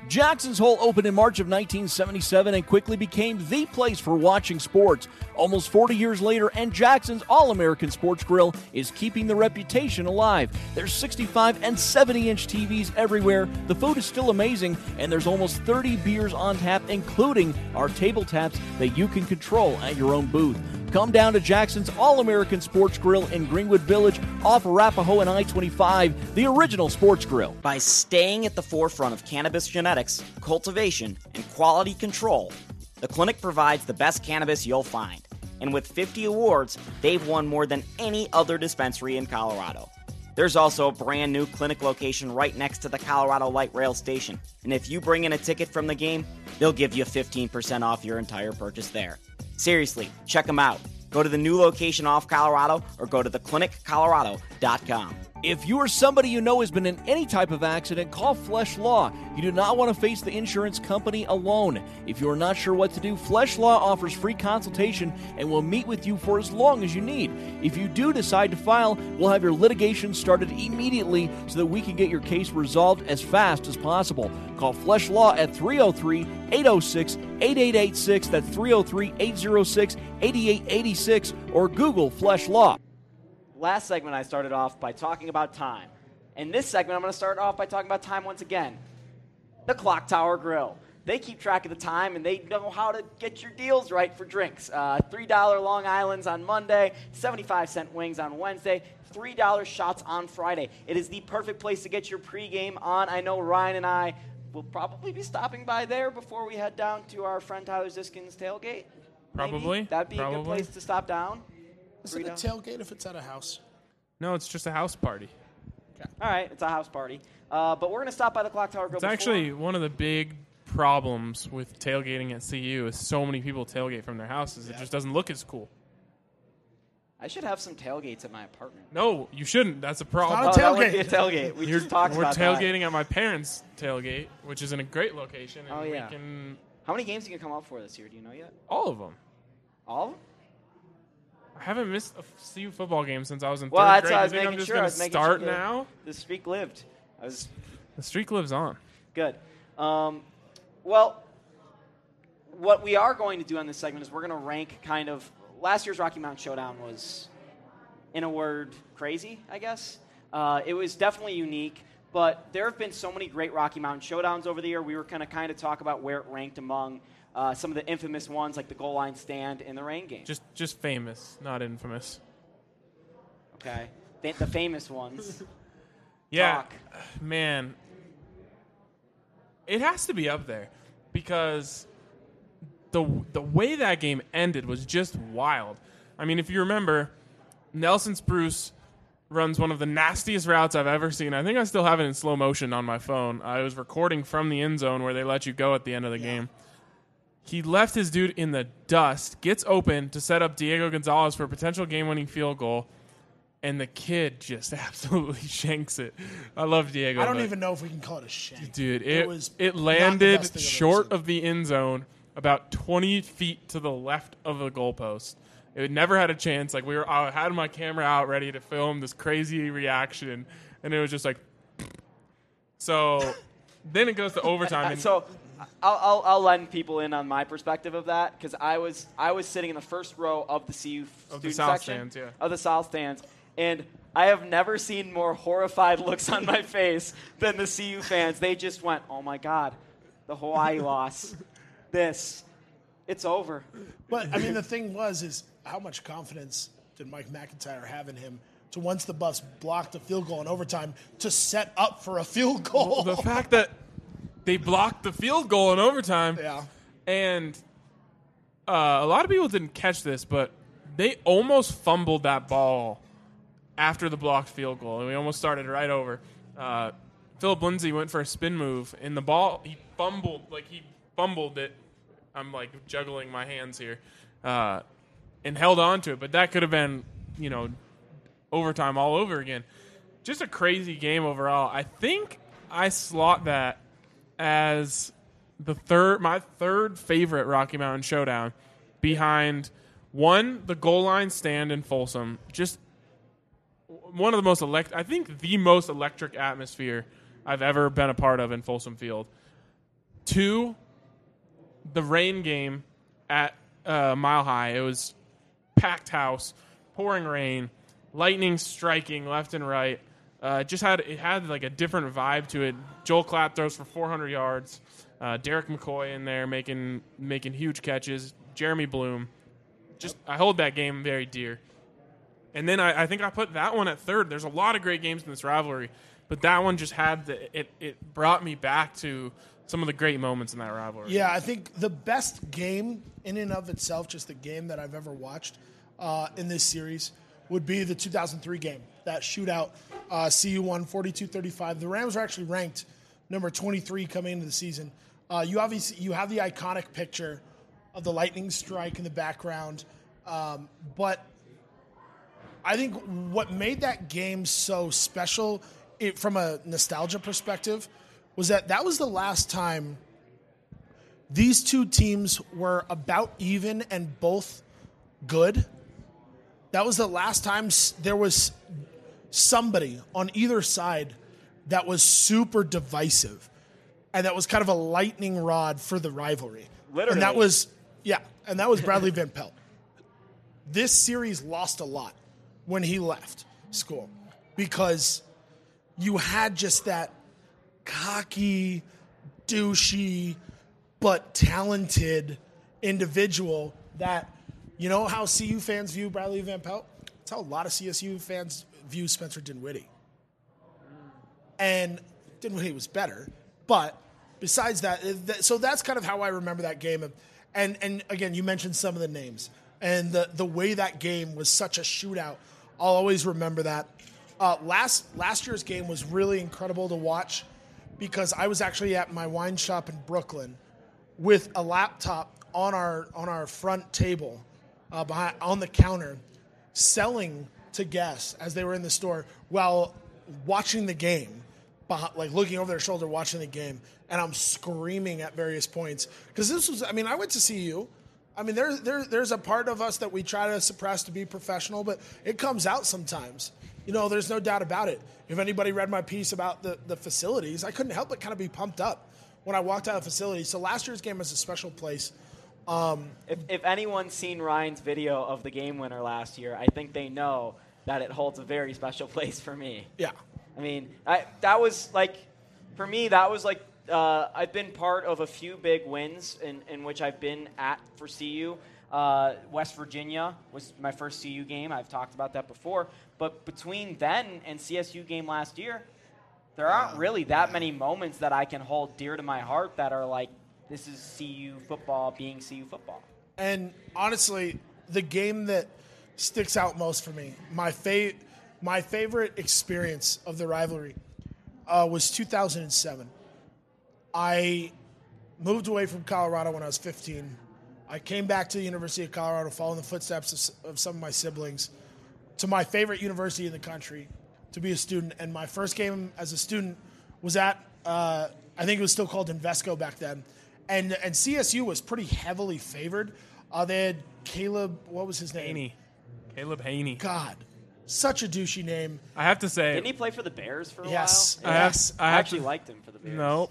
Jackson's Hole opened in March of 1977 and quickly became the place for watching sports. Almost 40 years later, and Jackson's All-American Sports Grill is keeping the reputation alive. There's 65 and 70-inch TVs everywhere, the food is still amazing, and there's almost 30 beers on tap, including our table taps that you can control at your own booth. Come down to Jackson's All-American Sports Grill in Greenwood Village off Arapahoe and I-25, the original sports grill. By staying at the forefront of cannabis genetics, cultivation, and quality control, the clinic provides the best cannabis you'll find. And with 50 awards, they've won more than any other dispensary in Colorado. There's also a brand new clinic location right next to the Colorado Light Rail station. And if you bring in a ticket from the game, they'll give you 15% off your entire purchase there. Seriously, check them out. Go to the new location off Colorado or go to thecliniccolorado.com. If you or somebody you know has been in any type of accident, call Flesh Law. You do not want to face the insurance company alone. If you are not sure what to do, Flesh Law offers free consultation and will meet with you for as long as you need. If you do decide to file, we'll have your litigation started immediately so that we can get your case resolved as fast as possible. Call Flesh Law at 303-806-8886. That's 303-806-8886 or Google Flesh Law. Last segment, I started off by talking about time. In this segment, I'm going to start off by talking about time once again. The Clock Tower Grill. They keep track of the time, and they know how to get your deals right for drinks. $3 Long Islands on Monday, 75-cent wings on Wednesday, $3 shots on Friday. It is the perfect place to get your pregame on. I know Ryan and I will probably be stopping by there before we head down to our friend Tyler Ziskin's tailgate. Probably. Maybe. That'd be a good place to stop down. Is it a tailgate if it's at a house? No, it's just a house party. Okay. All right, it's a house party. But we're going to stop by the Clock Tower Grill. It's actually one of the big problems with tailgating at CU is so many people tailgate from their houses. It just doesn't look as cool. I should have some tailgates at my apartment. No, you shouldn't. That's a problem. Not a That would be a tailgate. tailgate. We just talked We're about tailgating at my parents' tailgate, which is in a great location. And Oh, yeah. we can How many games you can come up for this year? Do you know yet? all of them. All of them? I haven't missed a CU football game since I was in Well, third that's grade. what I You was think I'm making just sure. I going was to making start sure now? the streak lived. I was The streak lives on. good. Well, what we are going to do on this segment is we're going to rank kind of last year's Rocky Mountain Showdown was, in a word, crazy, I guess. It was definitely unique, but there have been so many great Rocky Mountain Showdowns over the year. We were going to kind of talk about where it ranked among some of the infamous ones like the goal line stand and the rain game. Just famous, not infamous. Okay. The famous ones. Yeah, Talk. man. It has to be up there because the way that game ended was just wild. I mean, if you remember, Nelson Spruce runs one of the nastiest routes I've ever seen. I think I still have it in slow motion on my phone. I was recording from the end zone where they let you go at the end of the game. He left his dude in the dust, gets open to set up Diego Gonzalez for a potential game-winning field goal, and the kid just absolutely shanks it. I love Diego. I don't but- even know if we can call it a shank. Dude, it was it not the landed best thing I've ever short seen. of the end zone, about 20 feet to the left of the goalpost. It never had a chance. Like I had my camera out ready to film this crazy reaction, and it was just like. So, then it goes to overtime. And So I'll lend people in on my perspective of that because I was sitting in the first row of the CU Of the student South section stands, yeah. of the South stands, and I have never seen more horrified looks on my face than the CU fans. They just went, "Oh my God, the Hawaii loss, it's over." But, I mean, the thing is how much confidence did Mike McIntyre have in him to, once the Buffs blocked a field goal in overtime, to set up for a field goal? the fact that they blocked the field goal in overtime. Yeah. And a lot of people didn't catch this, but they almost fumbled that ball after the blocked field goal, and we almost started right over. Philip Lindsay went for a spin move, and the ball, he fumbled it. I'm, juggling my hands here. And held on to it, but that could have been, overtime all over again. Just a crazy game overall. I think I slot that as my third favorite Rocky Mountain Showdown, behind the goal line stand in Folsom. Just one of the most the most electric atmosphere I've ever been a part of in Folsom Field. 2, the rain game at Mile High. It was packed house, pouring rain, lightning striking left and right. It had like a different vibe to it. Joel Klatt throws for 400 yards. Derek McCoy in there making huge catches. Jeremy Bloom. I hold that game very dear. And then I think I put that one at third. There's a lot of great games in this rivalry, but that one just had it brought me back to some of the great moments in that rivalry. Yeah, I think the best game in and of itself, just the game that I've ever watched in this series, would be the 2003 game, that shootout. CU won 42-35. The Rams were actually ranked number 23 coming into the season. You have the iconic picture of the lightning strike in the background, but I think what made that game so special from a nostalgia perspective was that was the last time these two teams were about even and both good. That was the last time there was somebody on either side that was super divisive and that was kind of a lightning rod for the rivalry. Literally. And that was Bradley Van Pelt. This series lost a lot when he left school because you had just that cocky, douchey, but talented individual that, you know how CU fans view Bradley Van Pelt? That's how a lot of CSU fans view Spencer Dinwiddie. And Dinwiddie was better, but besides that, so that's kind of how I remember that game. And again, you mentioned some of the names. And the way that game was such a shootout, I'll always remember that. Last year's game was really incredible to watch because I was actually at my wine shop in Brooklyn with a laptop on our front table on the counter, selling to guests as they were in the store while watching the game, like looking over their shoulder watching the game, and I'm screaming at various points because this was. I mean, I went to CU. I mean, there's a part of us that we try to suppress to be professional, but it comes out sometimes. You know, there's no doubt about it. If anybody read my piece about the facilities, I couldn't help but kind of be pumped up when I walked out of the facility. So last year's game was a special place. If anyone's seen Ryan's video of the game winner last year, I think they know that it holds a very special place for me. Yeah. I mean, that was like, for me, that was like, I've been part of a few big wins in which I've been at for CU. West Virginia was my first CU game. I've talked about that before. But between then and CSU game last year, there aren't really that many moments that I can hold dear to my heart that are like, this is CU football being CU football. And honestly, the game that sticks out most for me, my favorite experience of the rivalry was 2007. I moved away from Colorado when I was 15. I came back to the University of Colorado, following the footsteps of some of my siblings, to my favorite university in the country to be a student. And my first game as a student was at, I think it was still called Invesco back then. And CSU was pretty heavily favored. They had Caleb, what was his name? Caleb Haney. God, such a douchey name. I have to say. Didn't he play for the Bears for a yes, while? Yes. I actually liked him for the Bears. No.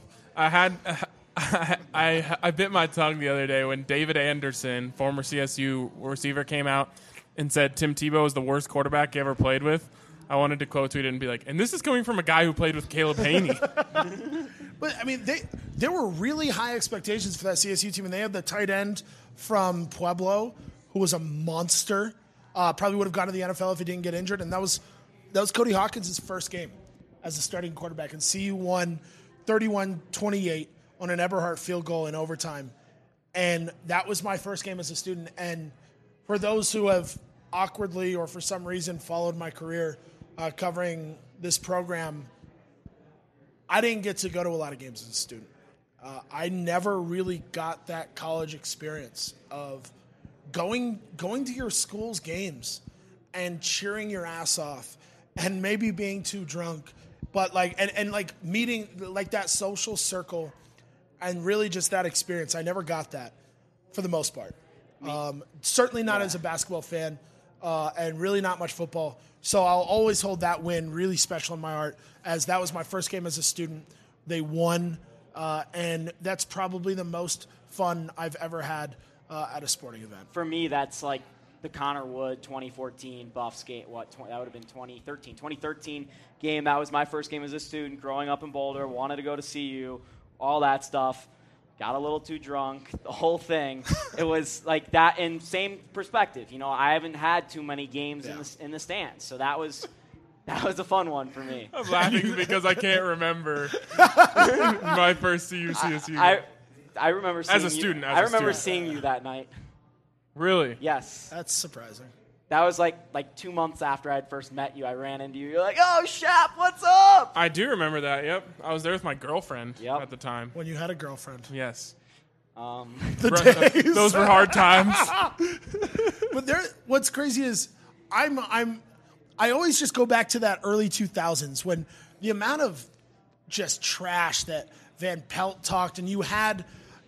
I bit my tongue the other day when David Anderson, former CSU receiver, came out and said Tim Tebow is the worst quarterback he ever played with. I wanted to quote tweet it and be like, and this is coming from a guy who played with Caleb Haney. But, I mean, there were really high expectations for that CSU team, and they had the tight end from Pueblo, who was a monster. Probably would have gone to the NFL if he didn't get injured, and that was Cody Hawkins' first game as a starting quarterback, and CU won 31-28 on an Eberhardt field goal in overtime. And that was my first game as a student. And for those who have awkwardly or for some reason followed my career covering this program, I didn't get to go to a lot of games as a student. I never really got that college experience of going to your school's games and cheering your ass off and maybe being too drunk, but like meeting like that social circle and really just that experience. I never got that for the most part. Certainly not as a basketball fan and really not much football. So I'll always hold that win really special in my heart, as that was my first game as a student. They won and that's probably the most fun I've ever had at a sporting event. For me, that's like the Connor Wood 2014 Buffs game. That would have been 2013. 2013 game. That was my first game as a student growing up in Boulder. Wanted to go to CU, all that stuff. Got a little too drunk, the whole thing. It was like that in same perspective. You know, I haven't had too many games in the stands, so that was a fun one for me. I'm laughing because I can't remember my first CU-CSU game. I remember seeing as a student. I remember seeing you that night. Really? Yes. That's surprising. That was like 2 months after I had first met you. I ran into you. You're like, "Oh, Shap, what's up?" I do remember that. Yep, I was there with my girlfriend Yep. at the time. When you had a girlfriend. Yes. The days. Those were hard times. But what's crazy is I always just go back to that early 2000s when the amount of just trash that Van Pelt talked, and you had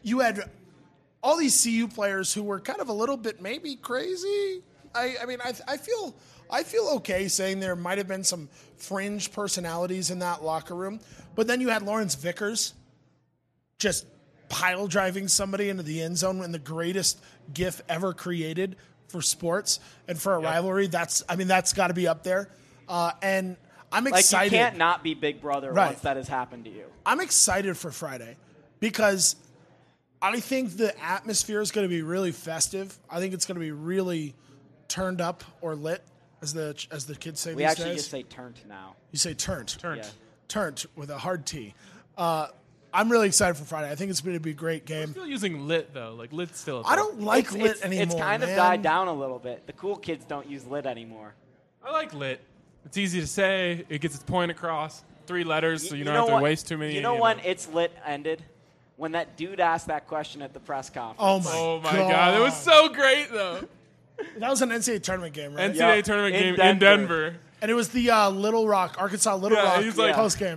all these CU players who were kind of a little bit maybe crazy. I mean, I feel okay saying there might have been some fringe personalities in that locker room, but then you had Lawrence Vickers just pile driving somebody into the end zone in the greatest GIF ever created for sports and for a rivalry. That's got to be up there. And I'm excited. Like, you can't not be Big Brother once that has happened to you. I'm excited for Friday because I think the atmosphere is going to be really festive. I think it's going to be really turned up or lit, as the kids say these days. We actually just say turned now. You say turned. Turned. Yeah. Turned with a hard T. I'm really excited for Friday. I think it's going to be a great game. I'm still using lit, though. Like, lit's still a I don't like lit anymore, It's kind of man. died down a little bit. The cool kids don't use lit anymore. I like lit. It's easy to say. It gets its point across. 3 letters, so you don't know have to what- waste too many. You know when it's lit ended? When that dude asked that question at the press conference. Oh my God. It was so great, though. That was an NCAA tournament game, right? NCAA tournament in game in Denver. Denver. And it was the Arkansas Little Rock he's like, post game.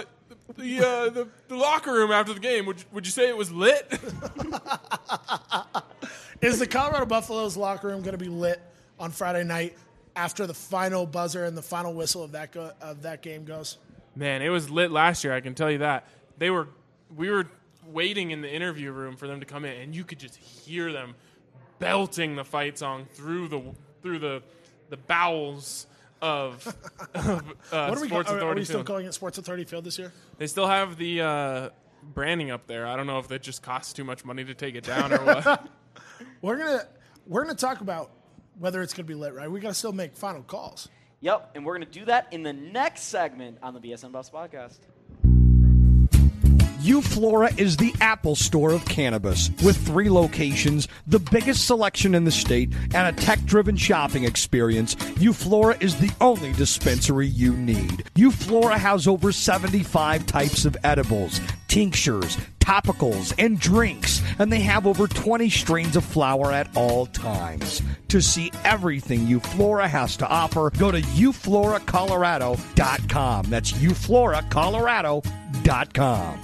The locker room after the game, would you say it was lit? Is the Colorado Buffaloes locker room going to be lit on Friday night after the final buzzer and the final whistle of that game goes? Man, it was lit last year, I can tell you that. We were waiting in the interview room for them to come in, and you could just hear them belting the fight song through the bowels of What Sports are Authority we still Field. calling it Sports Authority Field this year? They still have the branding up there. I don't know if that just costs too much money to take it down or what. We're gonna talk about whether it's gonna be lit, right? We gotta still make final calls. Yep, and we're going to do that in the next segment on the BSN Buffs podcast. Euflora is the Apple Store of cannabis. With 3 locations, the biggest selection in the state, and a tech-driven shopping experience, Euflora is the only dispensary you need. Euflora has over 75 types of edibles, tinctures, topicals, and drinks, and they have over 20 strains of flower at all times. To see everything Euflora has to offer, go to eufloracolorado.com. That's eufloracolorado.com.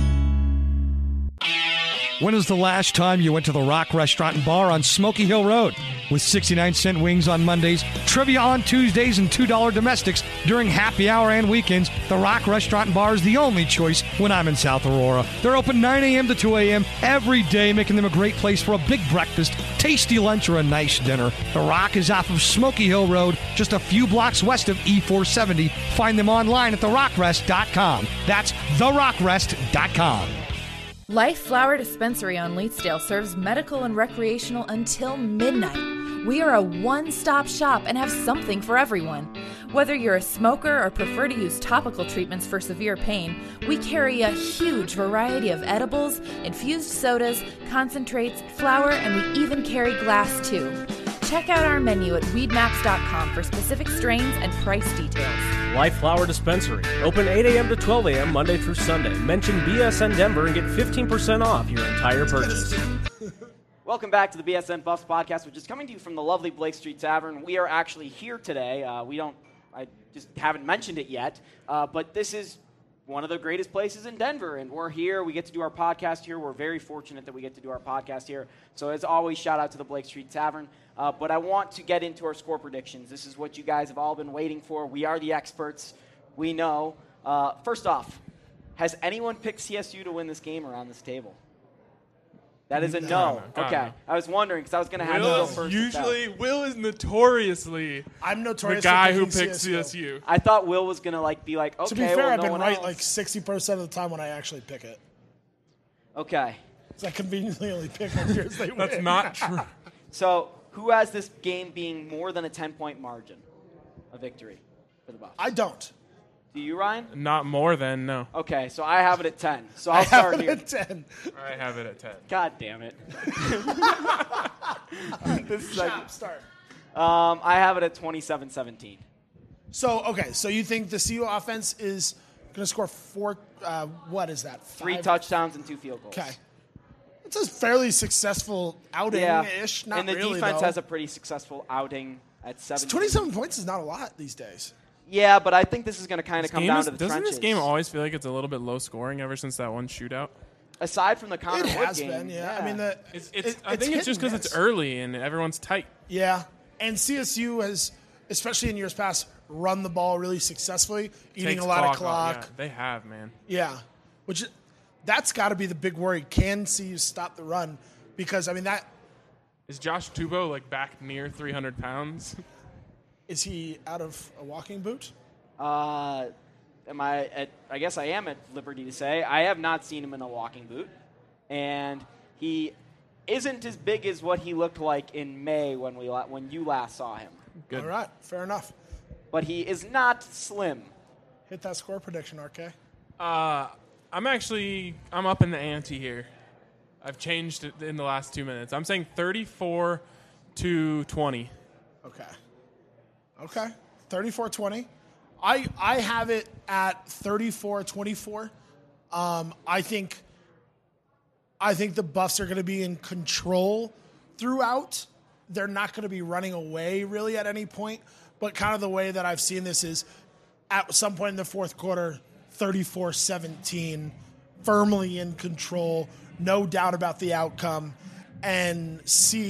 When is the last time you went to the Rock Restaurant and Bar on Smoky Hill Road? With 69-cent wings on Mondays, trivia on Tuesdays, and $2 domestics during happy hour and weekends, the Rock Restaurant and Bar is the only choice when I'm in South Aurora. They're open 9 a.m. to 2 a.m. every day, making them a great place for a big breakfast, tasty lunch, or a nice dinner. The Rock is off of Smoky Hill Road, just a few blocks west of E470. Find them online at therockrest.com. That's therockrest.com. Life Flower Dispensary on Leetsdale serves medical and recreational until midnight. We are a one-stop shop and have something for everyone. Whether you're a smoker or prefer to use topical treatments for severe pain, we carry a huge variety of edibles, infused sodas, concentrates, flower, and we even carry glass too. Check out our menu at weedmaps.com for specific strains and price details. Life Flower Dispensary. Open 8 a.m. to 12 a.m. Monday through Sunday. Mention BSN Denver and get 15% off your entire purchase. Welcome back to the BSN Buffs podcast, which is coming to you from the lovely Blake Street Tavern. We are actually here today. I just haven't mentioned it yet, but this is one of the greatest places in Denver, and we're here. We get to do our podcast here. We're very fortunate that we get to do our podcast here. So as always, shout out to the Blake Street Tavern. But I want to get into our score predictions. This is what you guys have all been waiting for. We are the experts. We know. First off, Has anyone picked CSU to win this game around this table? That is a no. God, Okay. no. I was wondering because I was going to have to go first. Will is notoriously I'm notorious the guy for who picking picks CSU. CSU. I thought Will was going to be like, okay, To be fair, well, I've no been one right else. like 60% of the time when I actually pick it. Okay. So I conveniently only pick when years they win. That's not true. So who has this game being more than a 10-point margin, a victory for the Buffs? I don't. Do you, Ryan? Not more than, no. Okay, so I have it at 10. So I I'll start have it here. at 10. I have it at 10. God damn it. This is Chop, start. I have it at 27-17. So, okay, so you think the CU offense is going to score 4, what is that? 3 5? touchdowns and 2 field goals. Okay. It's a fairly successful outing-ish. Not and the really, defense though. has a pretty successful outing at 7. 27 points is not a lot these days. Yeah, but I think this is going to kind of come down to the Doesn't trenches. this game always feel like it's a little bit low scoring ever since that one shootout? Aside from the Connor It Wood has game. been, yeah. I mean, I think it's just because it's early and everyone's tight. Yeah, and CSU has, especially in years past, run the ball really successfully, eating Takes a lot of off. clock. Yeah, they have, man. Yeah, which that's got to be the big worry. Can CU stop the run? Because I mean, that Is Josh Tubo back near 300 pounds? is he out of a walking boot? I guess I am at liberty to say I have not seen him in a walking boot, and he isn't as big as what he looked like in May when you last saw him. Good. All right, fair enough. But he is not slim. Hit that score prediction, RK. I'm up in the ante here. I've changed it in the last 2 minutes. I'm saying 34-20. Okay. 34-20. I have it at 34-24. I think the Buffs are going to be in control throughout. They're not going to be running away really at any point, but kind of the way that I've seen this is at some point in the fourth quarter, 34-17, firmly in control, no doubt about the outcome, and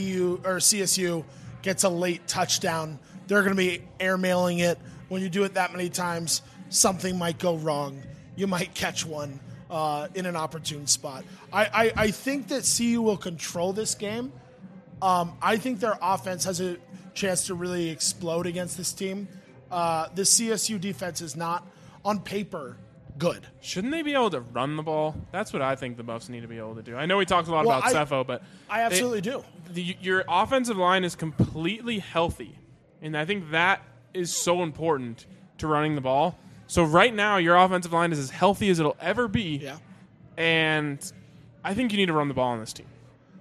CSU gets a late touchdown. They're going to be airmailing it. When you do it that many times, something might go wrong. You might catch one in an opportune spot. I think that CU will control this game. I think their offense has a chance to really explode against this team. The CSU defense is not, on paper, good. Shouldn't they be able to run the ball? That's what I think the Buffs need to be able to do. I know we talked a lot about Cepho, but I absolutely do. Your offensive line is completely healthy, and I think that is so important to running the ball. So right now, your offensive line is as healthy as it'll ever be. Yeah. And I think you need to run the ball on this team.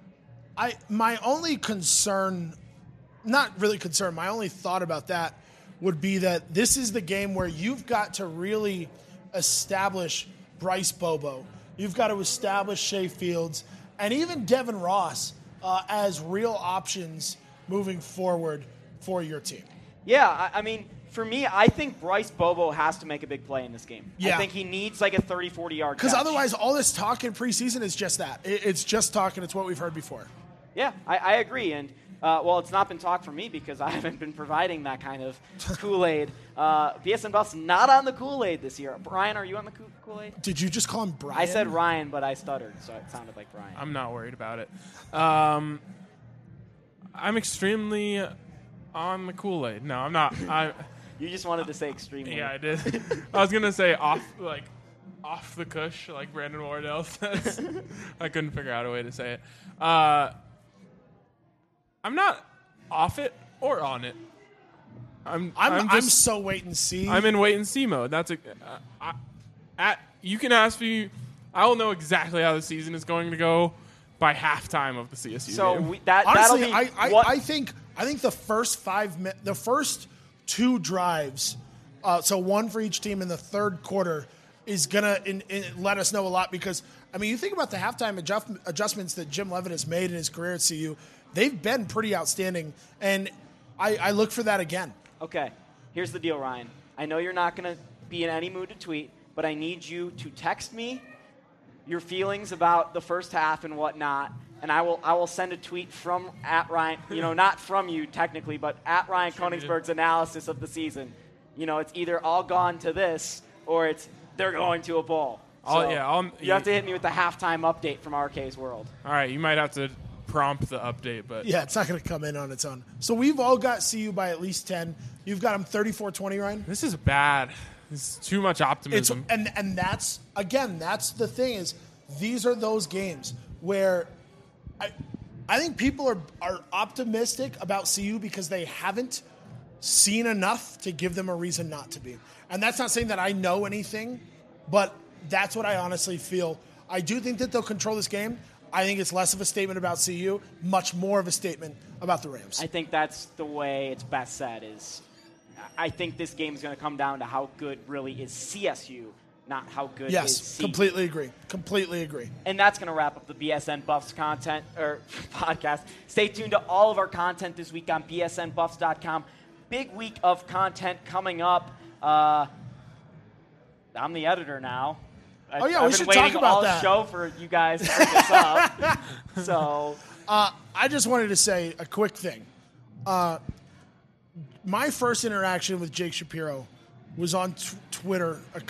My only concern, not really concern, my only thought about that would be that this is the game where you've got to really establish Bryce Bobo. You've got to establish Shea Fields and even Devin Ross as real options moving forward for your team. Yeah, I mean, for me, I think Bryce Bobo has to make a big play in this game. Yeah. I think he needs a 30, 40-yard catch. Because otherwise, all this talk in preseason is just that. It's just talk, and it's what we've heard before. Yeah, I agree. And, it's not been talk for me because I haven't been providing that kind of Kool-Aid. BSN Buffs not on the Kool-Aid this year. Brian, are you on the Kool-Aid? Did you just call him Brian? I said Ryan, but I stuttered, so it sounded like Brian. I'm not worried about it. I'm extremely on the Kool-Aid. No, I'm not. You just wanted to say extremely. Yeah, I did. I was going to say off the cush, like Brandon Wardell says. I couldn't figure out a way to say it. I'm not off it or on it. I'm so wait and see. I'm in wait and see mode. You can ask me. I will know exactly how the season is going to go by halftime of the CSU game. Honestly, I think the first the first 2 drives, so one for each team in the third quarter, is gonna let us know a lot because you think about the halftime adjustments that Jim Leavitt has made in his career at CU. They've been pretty outstanding, and I look for that again. Okay, here's the deal, Ryan. I know you're not going to be in any mood to tweet, but I need you to text me your feelings about the first half and whatnot, and I will send a tweet from @Ryan, not from you technically, but @Ryan Koenigsberg's analysis of the season. It's either all gone to this or it's they're going to a bowl. You have to hit me with the halftime update from RK's World. All right, you might have to prompt the update, but yeah, it's not going to come in on its own. So we've all got CU by at least 10. You've got them 34-20, Ryan. This is bad. This is too much optimism. And that's the thing is these are those games where I think people are optimistic about CU because they haven't seen enough to give them a reason not to be. And that's not saying that I know anything, but that's what I honestly feel. I do think that they'll control this game. I think it's less of a statement about CU, much more of a statement about the Rams. I think that's the way it's best said is I think this game is going to come down to how good really is CSU, not how good is CU. Yes, completely agree. Completely agree. And that's going to wrap up the BSN Buffs content or podcast. Stay tuned to all of our content this week on bsnbuffs.com. Big week of content coming up. I'm the editor now. We should talk about that. Show for you guys to pick this up. So, I just wanted to say a quick thing. My first interaction with Jake Shapiro was on Twitter it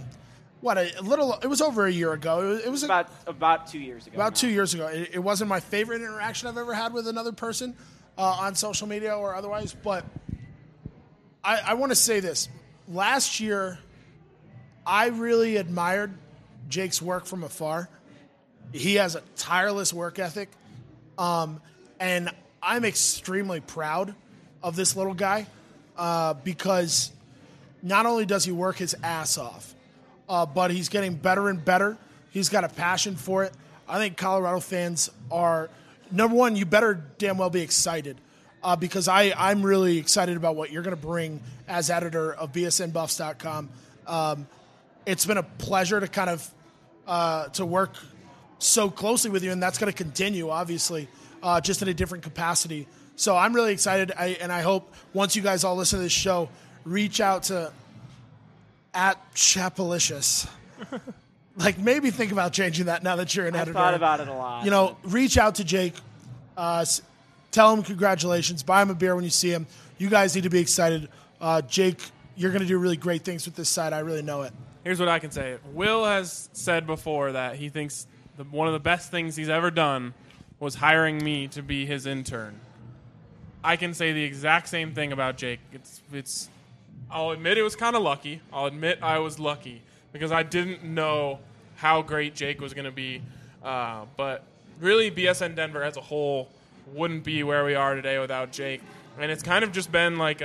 was over a year ago. It was about 2 years ago. About 2 years ago. It wasn't my favorite interaction I've ever had with another person on social media or otherwise, but I want to say this. Last year, I really admired Jake's work from afar. He has a tireless work ethic, and I'm extremely proud of this little guy because not only does he work his ass off, but he's getting better and better. He's got a passion for it. I think Colorado fans are, number one, you better damn well be excited because I'm really excited about what you're going to bring as editor of bsnbuffs.com. It's been a pleasure to kind of to work so closely with you, and that's going to continue, obviously, just in a different capacity. So I'm really excited, and I hope once you guys all listen to this show, reach out to @Chapelicious. Like, maybe think about changing that now that you're an editor. I thought about it a lot. You know, reach out to Jake. Tell him congratulations. Buy him a beer when you see him. You guys need to be excited. Jake, you're going to do really great things with this site. I really know it. Here's what I can say. Will has said before that he thinks one of the best things he's ever done was hiring me to be his intern. I can say the exact same thing about Jake. I'll admit it was kind of lucky. I'll admit I was lucky because I didn't know how great Jake was going to be. But really, BSN Denver as a whole wouldn't be where we are today without Jake. And it's kind of just been like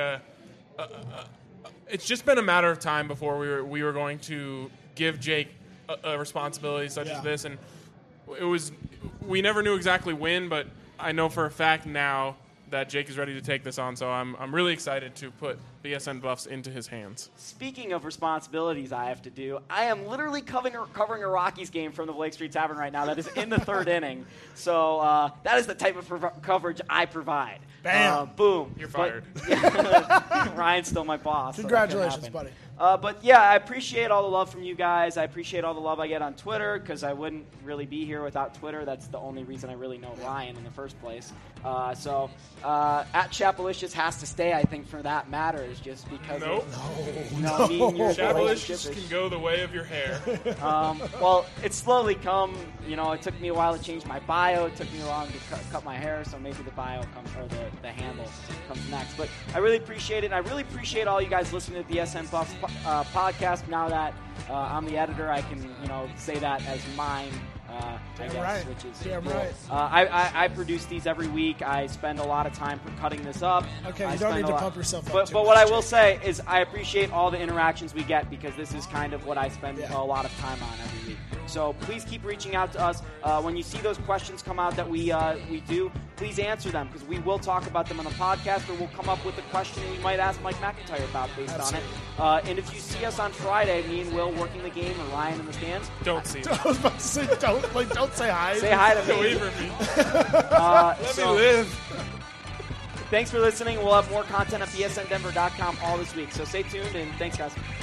it's just been a matter of time before we were going to give Jake a responsibility such as this. And we never knew exactly when, but I know for a fact now that Jake is ready to take this on, so I'm really excited to put BSN Buffs into his hands. Speaking of responsibilities I have to do, I am literally covering a Rockies game from the Lake Street Tavern right now that is in the third inning. So that is the type of coverage I provide. Bam. Boom. You're fired. Ryan's still my boss. Congratulations, so buddy. But yeah, I appreciate all the love from you guys. I appreciate all the love I get on Twitter because I wouldn't really be here without Twitter. That's the only reason I really know Ryan in the first place. So @Chapelicious has to stay, I think, for that matter, is just because me and your Chapelicious can go the way of your hair. Well, it's slowly come. You know, it took me a while to change my bio. It took me long to cut my hair, so maybe the bio comes, or the handle comes next. But I really appreciate it, and I really appreciate all you guys listening to the BSN Buffs podcast. Now that I'm the editor, I can say that as mine. I guess, right. Which is cool. Right. I produce these every week. I spend a lot of time cutting this up. Okay, you don't need to pump yourself up. But what I will say is I appreciate all the interactions we get because this is kind of what I spend a lot of time on every week. So please keep reaching out to us. When you see those questions come out that we do, please answer them because we will talk about them on the podcast, or we'll come up with a question we might ask Mike McIntyre about based on it. And if you see us on Friday, me and Will working the game, or Ryan in the stands, don't see. I was about to say don't say hi. Say hi to me. Wait for me. Let me live. Thanks for listening. We'll have more content at bsndenver.com all this week. So stay tuned, and thanks, guys.